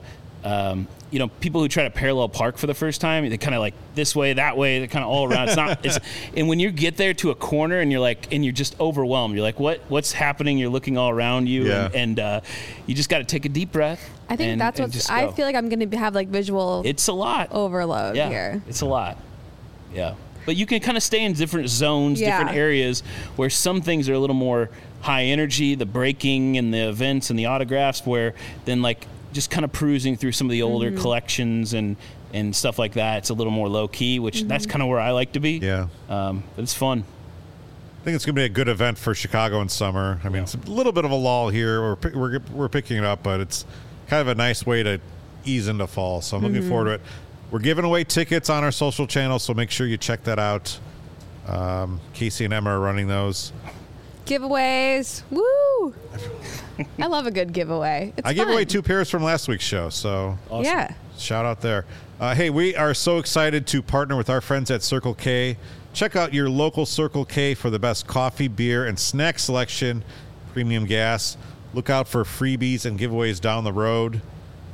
people who try to parallel park for the first time, they kind of like this way, that way, they're kind of all around. And when you get there to a corner and you're just overwhelmed, you're like, what's happening? You're looking all around you, and you just got to take a deep breath. I think that's what I feel like I'm going to have like visual. It's a lot overload here. It's a lot. Yeah, but you can kind of stay in different zones, different areas where some things are a little more high energy, the breaking and the events and the autographs, where then like just kind of perusing through some of the older collections and stuff like that. It's a little more low key, which that's kind of where I like to be. Yeah. But it's fun. I think it's going to be a good event for Chicago in summer. I mean, it's a little bit of a lull here. We're picking it up, but it's kind of a nice way to ease into fall. So I'm looking forward to it. We're giving away tickets on our social channels, so make sure you check that out. Casey and Emma are running those. Giveaways. Woo! I love a good giveaway. It's I gave away 2 pairs from last week's show, so awesome. Yeah. Shout out there. Hey, we are so excited to partner with our friends at Circle K. Check out your local Circle K for the best coffee, beer, and snack selection, premium gas. Look out for freebies and giveaways down the road.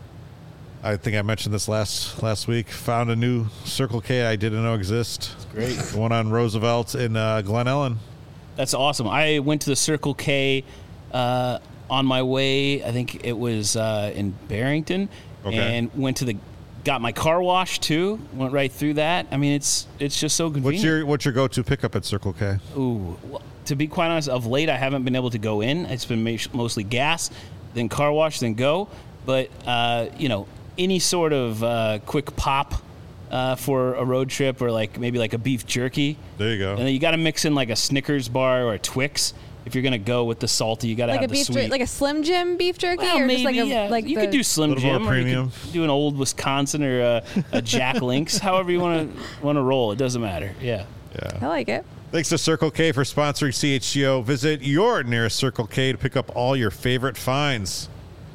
I think I mentioned this last week. Found a new Circle K I didn't know exist. It's great. The one on Roosevelt in Glen Ellen. That's awesome. I went to the Circle K on my way. I think it was in Barrington, and got my car washed too. Went right through that. I mean, it's just so convenient. What's your go-to pickup at Circle K? Ooh, well, to be quite honest, of late I haven't been able to go in. It's been mostly gas, then car wash, then go. But any sort of quick pop for a road trip, or maybe a beef jerky. There you go. And then you got to mix in like a Snickers bar or a Twix. If you're gonna go with the salty, you got to have the sweet. Like a Slim Jim beef jerky, well, or maybe, just you could do Slim Jim, or you could do an old Wisconsin or a Jack Links. However you want to roll, it doesn't matter. Yeah. I like it. Thanks to Circle K for sponsoring CHGO. Visit your nearest Circle K to pick up all your favorite finds.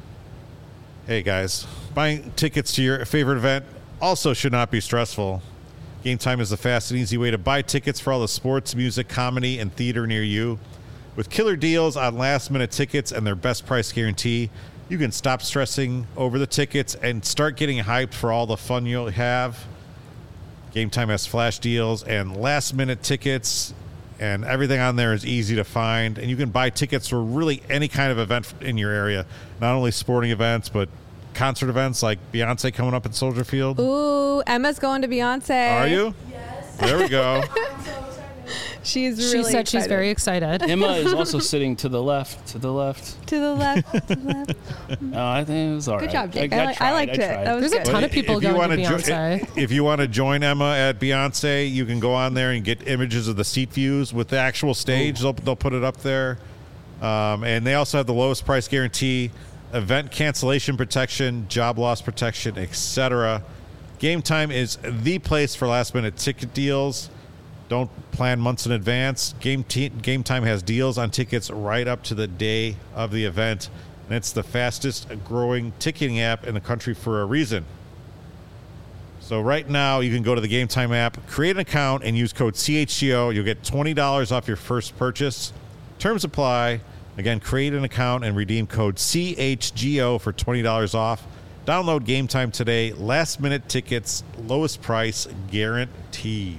Hey guys, buying tickets to your favorite event also should not be stressful. Game Time is the fast and easy way to buy tickets for all the sports, music, comedy, and theater near you. With killer deals on last-minute tickets and their best price guarantee, you can stop stressing over the tickets and start getting hyped for all the fun you'll have. Game Time has flash deals and last-minute tickets, and everything on there is easy to find. And you can buy tickets for really any kind of event in your area, not only sporting events, but concert events like Beyonce coming up at Soldier Field. Ooh, Emma's going to Beyonce. Are you? Yes. There we go. She's She really said she's excited. very excited. Emma is also sitting to the left. To the left. To the left. Oh, I think it was all right. Good job, Jake. I I liked it. tried. That was There's a good. ton of people If you going to wanna Beyonce. if you want to join Emma at Beyonce, you can go on there and get images of the seat views with the actual stage. They'll put it up there. And they also have the lowest price guarantee, event cancellation protection, job loss protection, etc. Game Time is the place for last-minute ticket deals. Don't plan months in advance. Game Time has deals on tickets right up to the day of the event. And it's the fastest growing ticketing app in the country for a reason. So right now, you can go to the Game Time app, create an account, and use code CHGO. You'll get $20 off your first purchase. Terms apply. Again, create an account and redeem code CHGO for $20 off. Download Game Time today. Last-minute tickets, lowest price guaranteed.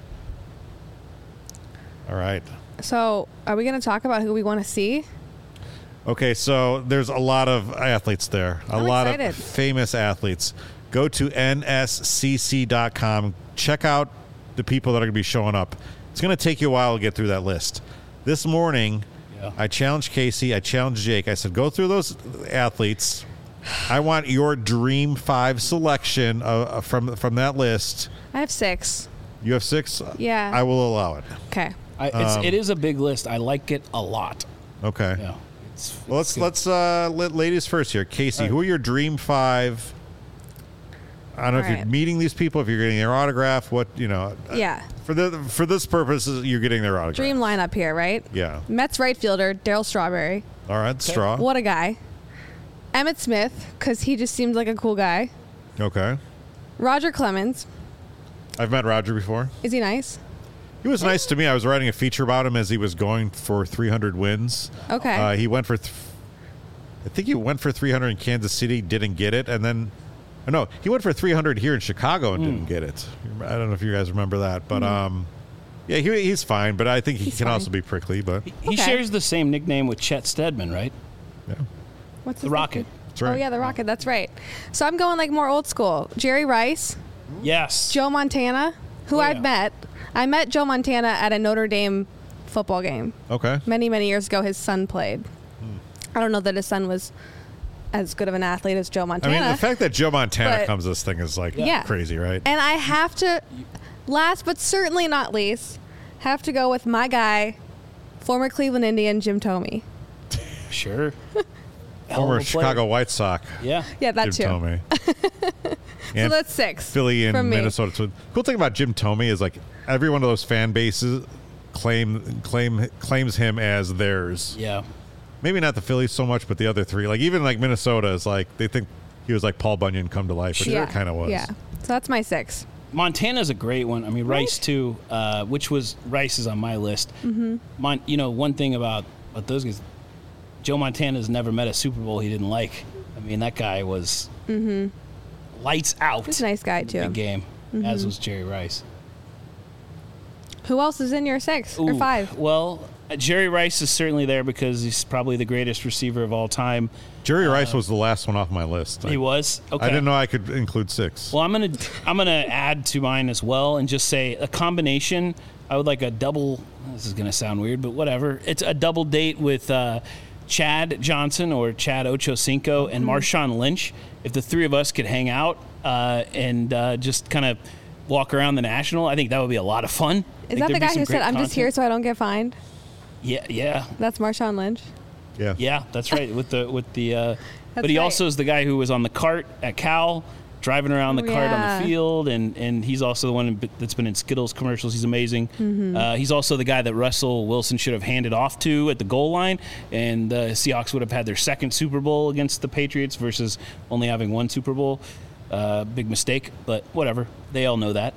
All right. So, are we going to talk about who we want to see? Okay, so there's a lot of athletes there. A I'm lot excited. of famous athletes. Go to nscc.com. Check out the people that are going to be showing up. It's going to take you a while to get through that list. This morning, I challenged Casey. I challenged Jake. I said, go through those athletes. I want your Dream 5 selection from that list. I have 6. You have 6? Yeah. I will allow it. Okay. It is a big list. I like it a lot. Okay. Yeah. Well, let's let ladies first here. Casey, who are your Dream 5? I don't know if you're meeting these people, if you're getting their autograph, Yeah. For this purpose, you're getting their autograph. Dream lineup here, right? Yeah. Mets right fielder, Darryl Strawberry. All right, Straw. What a guy. Emmitt Smith, because he just seems like a cool guy. Okay. Roger Clemens. I've met Roger before. Is he nice? He was nice to me. I was writing a feature about him as he was going for 300 wins. Okay. He went for, I think he went for 300 in Kansas City, didn't get it, and then, no, he went for 300 here in Chicago and didn't get it. I don't know if you guys remember that, but yeah, he's fine. But I think he can also be prickly. But He shares the same nickname with Chet Steadman, right? Yeah. What's the his Rocket. name? That's right. Oh yeah, the Rocket. That's right. So I'm going like more old school. Jerry Rice, Yes. Joe Montana, who I've met. I met Joe Montana at a Notre Dame football game. Okay. Many, many years ago. His son played. I don't know that his son was as good of an athlete as Joe Montana. I mean, the fact that Joe Montana But- comes to this thing is like Yeah. crazy, right? And I have to, last but certainly not least, have to go with my guy, former Cleveland Indian Jim Thome. Sure. Former Chicago White Sox. Yeah. Yeah, that Jim too. Thome. So And that's 6. Philly and from me. Minnesota. So cool thing about Jim Thome is like every one of those fan bases claims him as theirs. Yeah. Maybe not the Phillies so much, but the other 3. Like even like Minnesota is like they think he was like Paul Bunyan come to life, which he kind of was. Yeah. So that's my 6. Montana's a great one. I mean, Rice too, Rice is on my list. Mm-hmm. One thing about those guys, Joe Montana's never met a Super Bowl he didn't like. I mean, that guy was lights out. He's a nice guy too. Big game, as was Jerry Rice. Who else is in your 6 or 5? Well, Jerry Rice is certainly there because he's probably the greatest receiver of all time. Jerry Rice was the last one off my list. He was? Okay. I didn't know I could include 6. Well, I'm gonna add to mine as well, and just say a combination. I would like a double. This is gonna sound weird, but whatever. It's a double date with Chad Johnson or Chad Ochocinco and Marshawn Lynch. If the 3 of us could hang out and just kind of walk around the National, I think that would be a lot of fun. Is that the guy who said, "I'm just here so I don't get fined"? Yeah. That's Marshawn Lynch. Yeah, that's right. But he right. also is the guy who was on the cart at Cal, driving around the cart on the field, and he's also the one that's been in Skittles commercials. He's amazing. Mm-hmm. He's also the guy that Russell Wilson should have handed off to at the goal line, and the Seahawks would have had their 2nd Super Bowl against the Patriots versus only having 1 Super Bowl. Big mistake, but whatever. They all know that.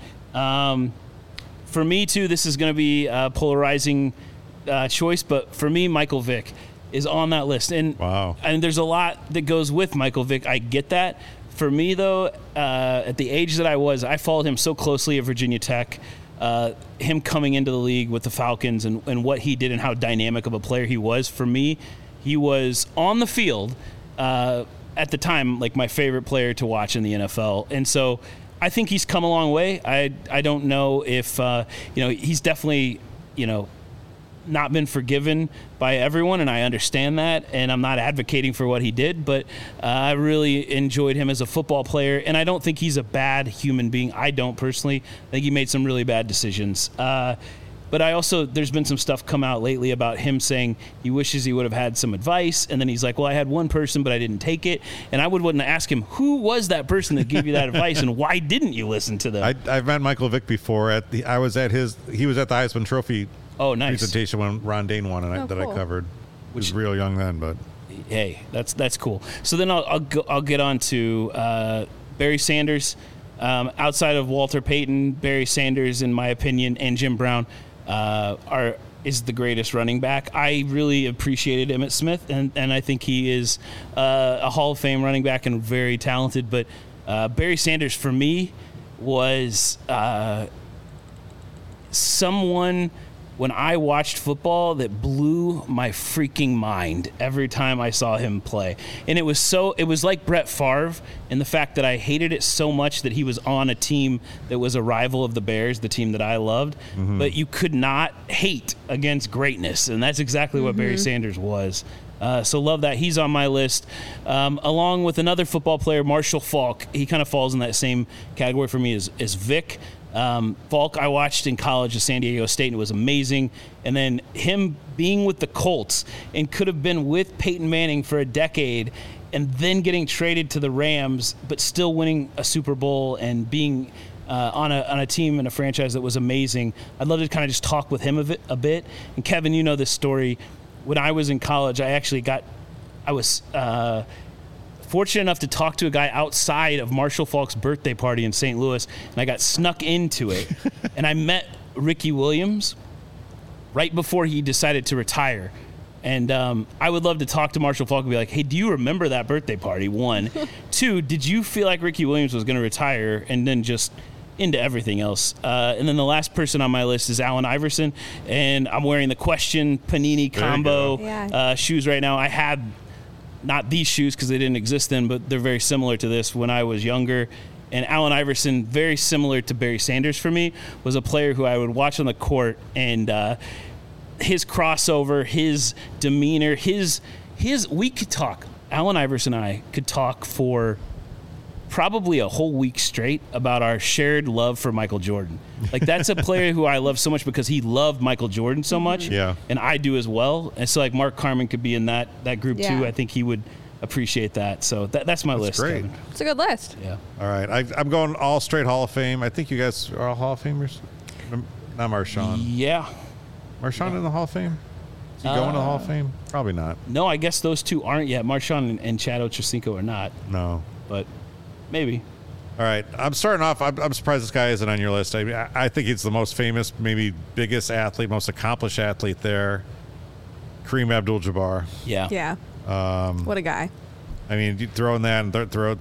For me, too, this is going to be a polarizing choice, but for me, Michael Vick is on that list. And Wow. And there's a lot that goes with Michael Vick. I get that. For me, though, at the age that I was, I followed him so closely at Virginia Tech. Him coming into the league with the Falcons and what he did and how dynamic of a player he was. For me, he was on the field at the time like my favorite player to watch in the NFL. And so I think he's come a long way. I don't know if he's definitely not been forgiven by everyone, and I understand that, and I'm not advocating for what he did, but I really enjoyed him as a football player, and I don't think he's a bad human being. I don't personally. I think he made some really bad decisions. But there's been some stuff come out lately about him saying he wishes he would have had some advice, and then he's like, well, I had one person, but I didn't take it. And I would want to ask him, who was that person that gave you that advice, and why didn't you listen to them? I've met Michael Vick before. He was at the Heisman Trophy presentation when Ron Dane won, and that I covered. He was real young then, but hey, that's cool. So then I'll get on to Barry Sanders. Outside of Walter Payton, Barry Sanders, in my opinion, and Jim Brown is the greatest running back. I really appreciated Emmitt Smith, and I think he is a Hall of Fame running back and very talented. But Barry Sanders, for me, was someone, when I watched football, that blew my freaking mind every time I saw him play. And it was like Brett Favre in the fact that I hated it so much that he was on a team that was a rival of the Bears, the team that I loved. Mm-hmm. But you could not hate against greatness. And that's exactly what Barry Sanders was. So love that. He's on my list. Along with another football player, Marshall Faulk. He kind of falls in that same category for me as Vic. Faulk I watched in college at San Diego State, and it was amazing. And then him being with the Colts and could have been with Peyton Manning for a decade and then getting traded to the Rams, but still winning a Super Bowl and being on a team and a franchise that was amazing. I'd love to kind of just talk with him a bit. And Kevin, you know this story. When I was in college, I was fortunate enough to talk to a guy outside of Marshall Faulk's birthday party in St. Louis, and I got snuck into it. And I met Ricky Williams right before he decided to retire. And I would love to talk to Marshall Faulk and be like, hey, do you remember that birthday party? 1. 2, did you feel like Ricky Williams was going to retire and then just into everything else? And then the last person on my list is Allen Iverson, and I'm wearing the Question Panini combo shoes right now. I had not these shoes because they didn't exist then, but they're very similar to this when I was younger. And Allen Iverson, very similar to Barry Sanders for me, was a player who I would watch on the court, and his crossover, his demeanor, we could talk. Allen Iverson and I could talk for probably a whole week straight about our shared love for Michael Jordan. Like, that's a player who I love so much because he loved Michael Jordan so much. Yeah. And I do as well. And so, like, Mark Carman could be in that group too. I think he would appreciate that. So that's my list. Great. Kevin. It's a good list. Yeah. All right. I'm going all straight Hall of Fame. I think you guys are all Hall of Famers. Not Marshawn. Yeah. Marshawn in the Hall of Fame? Is he going to the Hall of Fame? Probably not. No, I guess those two aren't yet. Marshawn and Chad Ochocinco are not. No. But maybe. All right. I'm starting off. I'm surprised this guy isn't on your list. I think he's the most famous, maybe biggest athlete, most accomplished athlete there. Kareem Abdul-Jabbar. Yeah. Yeah. What a guy. I mean, you throw in that and throw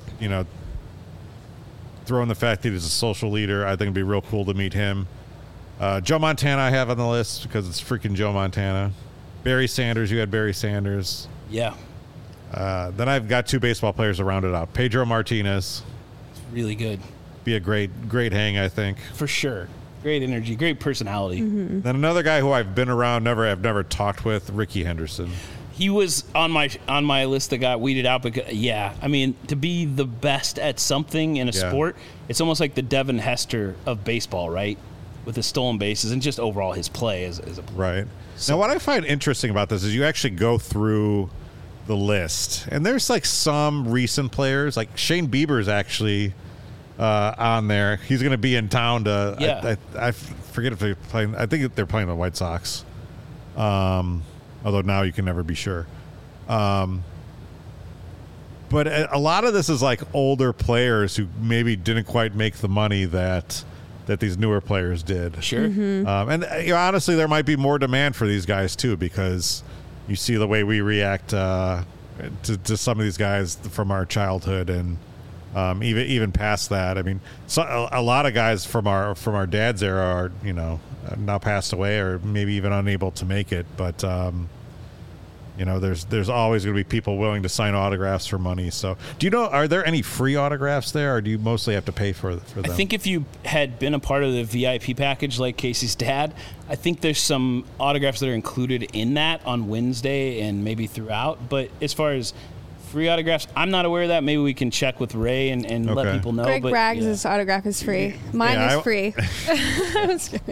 in the fact that he's a social leader, I think it'd be real cool to meet him. Joe Montana I have on the list because it's freaking Joe Montana. Barry Sanders, you had Barry Sanders. Yeah. Then I've got 2 baseball players to round it out. Pedro Martinez. Really good. Be a great hang, I think. For sure. Great energy, great personality. Mm-hmm. Then another guy who I've been around, I've never talked with, Ricky Henderson. He was on my list that got weeded out because, I mean, to be the best at something in a sport, it's almost like the Devin Hester of baseball, right? With his stolen bases and just overall his play as a player. Right. So, now, what I find interesting about this is you actually go through the list, and there's like some recent players, like Shane Bieber's actually on there. He's going to be in town to. I forget if they're playing. I think they're playing the White Sox. Although now you can never be sure. But a lot of this is like older players who maybe didn't quite make the money that these newer players did. Sure. Mm-hmm. And honestly, there might be more demand for these guys too, because you see the way we react to some of these guys from our childhood, and Even past that, I mean, so a lot of guys from our dad's era are now passed away or maybe even unable to make it. But there's always going to be people willing to sign autographs for money. So, are there any free autographs there, or do you mostly have to pay for them? I think if you had been a part of the VIP package like Casey's dad, I think there's some autographs that are included in that on Wednesday and maybe throughout. But as far as free autographs, I'm not aware of that. Maybe we can check with Ray and let people know. Greg Braggs' autograph is free. Mine is free. I was kidding.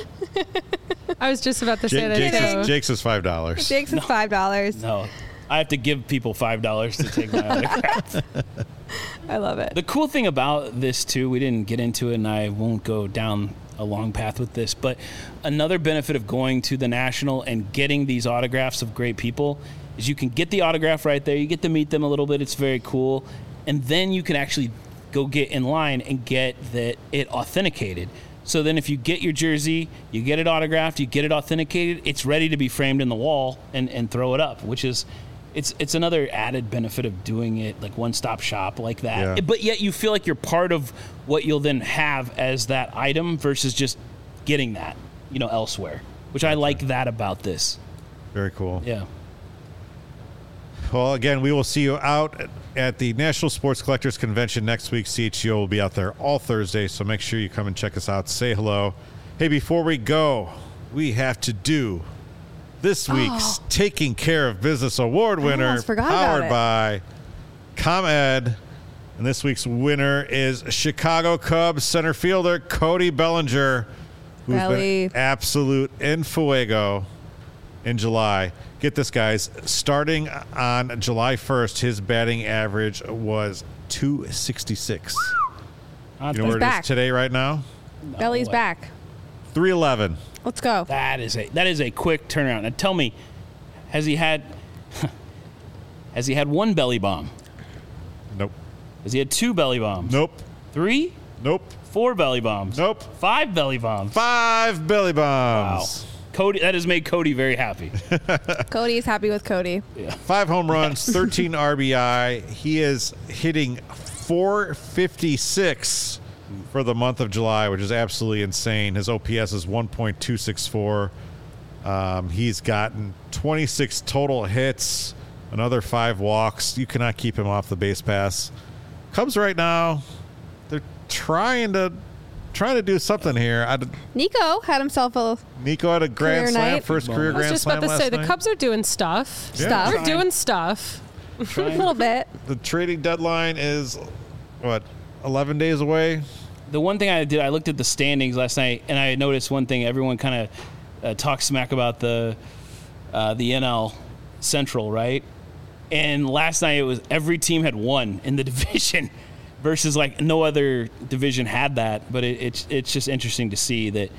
I was just about to say that. Jake's is $5. Jake's is $5. No, I have to give people $5 to take my autograph. I love it. The cool thing about this too, we didn't get into it, and I won't go down a long path with this, but another benefit of going to the National and getting these autographs of great people is you can get the autograph right there. You get to meet them a little bit. It's very cool. And then you can actually go get in line and get it authenticated. So then if you get your jersey, you get it autographed, you get it authenticated, it's ready to be framed in the wall and throw it up, which is it's another added benefit of doing it like one-stop shop like that. Yeah. But yet you feel like you're part of what you'll then have as that item versus just getting that, elsewhere, which I like that about this. Very cool. Yeah. Well, again, we will see you out at the National Sports Collectors Convention next week. CHGO will be out there all Thursday, so make sure you come and check us out. Say hello. Hey, before we go, we have to do this week's Taking Care of Business Award winner, powered by ComEd. And this week's winner is Chicago Cubs center fielder Cody Bellinger, who's been absolute en fuego in July. Get this, guys. Starting on July 1st, his batting average was .266. You know where it is today right now? Belly's back. 311. Let's go. That is a quick turnaround. Now tell me, has he had one belly bomb? Nope. Has he had 2 belly bombs? Nope. 3? Nope. 4 belly bombs? Nope. 5 belly bombs? 5 belly bombs. Wow. Cody, that has made Cody very happy. Cody is happy with Cody. Yeah. 5 home runs, 13 RBI. He is hitting .456 for the month of July, which is absolutely insane. His OPS is 1.264. He's gotten 26 total hits, another 5 walks. You cannot keep him off the base pass. Cubs right now, they're trying to do something here. Nico had himself a grand slam, first career grand slam. I was just about to say, the Cubs are doing stuff. They're doing stuff. A little bit. The trading deadline is, 11 days away? The one thing I did, I looked at the standings last night, and I noticed one thing. Everyone kind of talks smack about the NL Central, right? And last night it was every team had won in the division. Versus like no other division had that, but it's just interesting to see that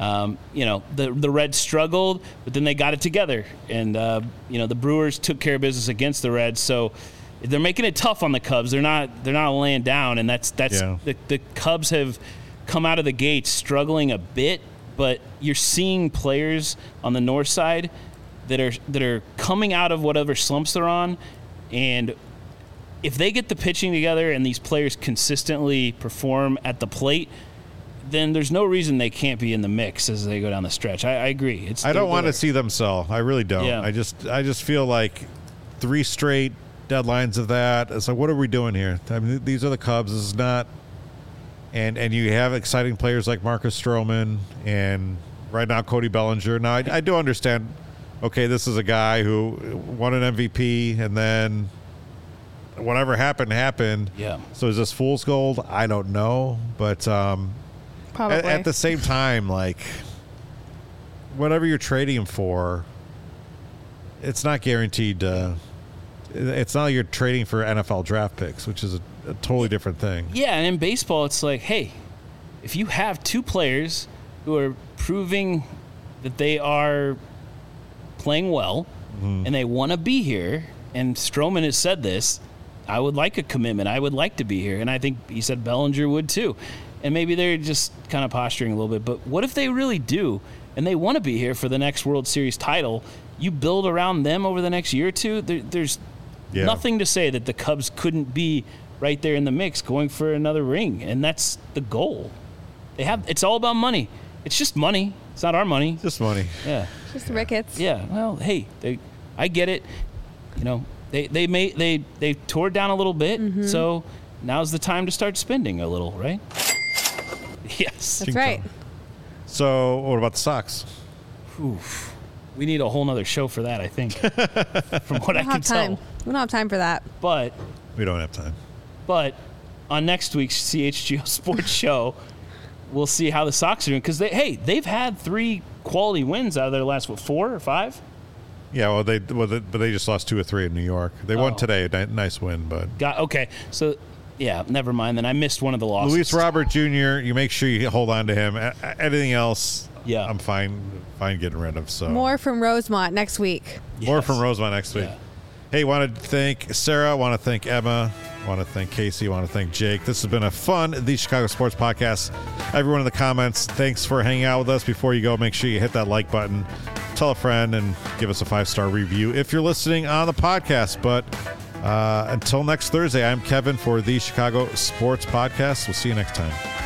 the Reds struggled, but then they got it together, and the Brewers took care of business against the Reds, so they're making it tough on the Cubs. They're not laying down, and that's the Cubs have come out of the gate struggling a bit, but you're seeing players on the north side that are coming out of whatever slumps they're on, and if they get the pitching together and these players consistently perform at the plate, then there's no reason they can't be in the mix as they go down the stretch. I agree. I don't want to see them sell. I really don't. Yeah. I just feel like 3 straight deadlines of that. It's like, what are we doing here? I mean, these are the Cubs. This is not. And you have exciting players like Marcus Stroman and right now Cody Bellinger. Now, I do understand, okay, this is a guy who won an MVP and then whatever happened. Yeah. So is this fool's gold? I don't know. But at the same time, like, whatever you're trading him for, it's not guaranteed. It's not like you're trading for NFL draft picks, which is a totally different thing. Yeah, and in baseball, it's like, hey, if you have 2 players who are proving that they are playing well and they want to be here, and Stroman has said this, I would like a commitment. I would like to be here. And I think he said Bellinger would too. And maybe they're just kind of posturing a little bit. But what if they really do and they want to be here for the next World Series title? You build around them over the next year or two. There's nothing to say that the Cubs couldn't be right there in the mix, going for another ring, and that's the goal. It's all about money. It's just money. It's not our money. Just money. Yeah. Just Ricketts. Yeah. Well, hey, I get it. You know, they tore it down a little bit, so now's the time to start spending a little, right? Yes. That's right. So, what about the Sox? Oof. We need a whole nother show for that, I think, from what I can tell. We don't have time for that. But We don't have time. But on next week's CHGO Sports Show, we'll see how the Sox are doing. Because, they've had 3 quality wins out of their last, 4 or 5? Yeah, well, but they just lost 2 or 3 in New York. They won today. Nice win, but... Okay, so... Yeah, never mind. Then I missed one of the losses. Luis Robert Jr., you make sure you hold on to him. Anything else, yeah, I'm fine getting rid of. So more from Rosemont next week. Yes. More from Rosemont next week. Yeah. Hey, want to thank Sarah. Want to thank Emma. Want to thank Casey. Want to thank Jake. This has been a fun The Chicago Sports Podcast. Everyone in the comments, thanks for hanging out with us. Before you go, make sure you hit that like button, tell a friend, and give us a 5-star review if you're listening on the podcast. But until next Thursday, I'm Kevin for The Chicago Sports Podcast. We'll see you next time.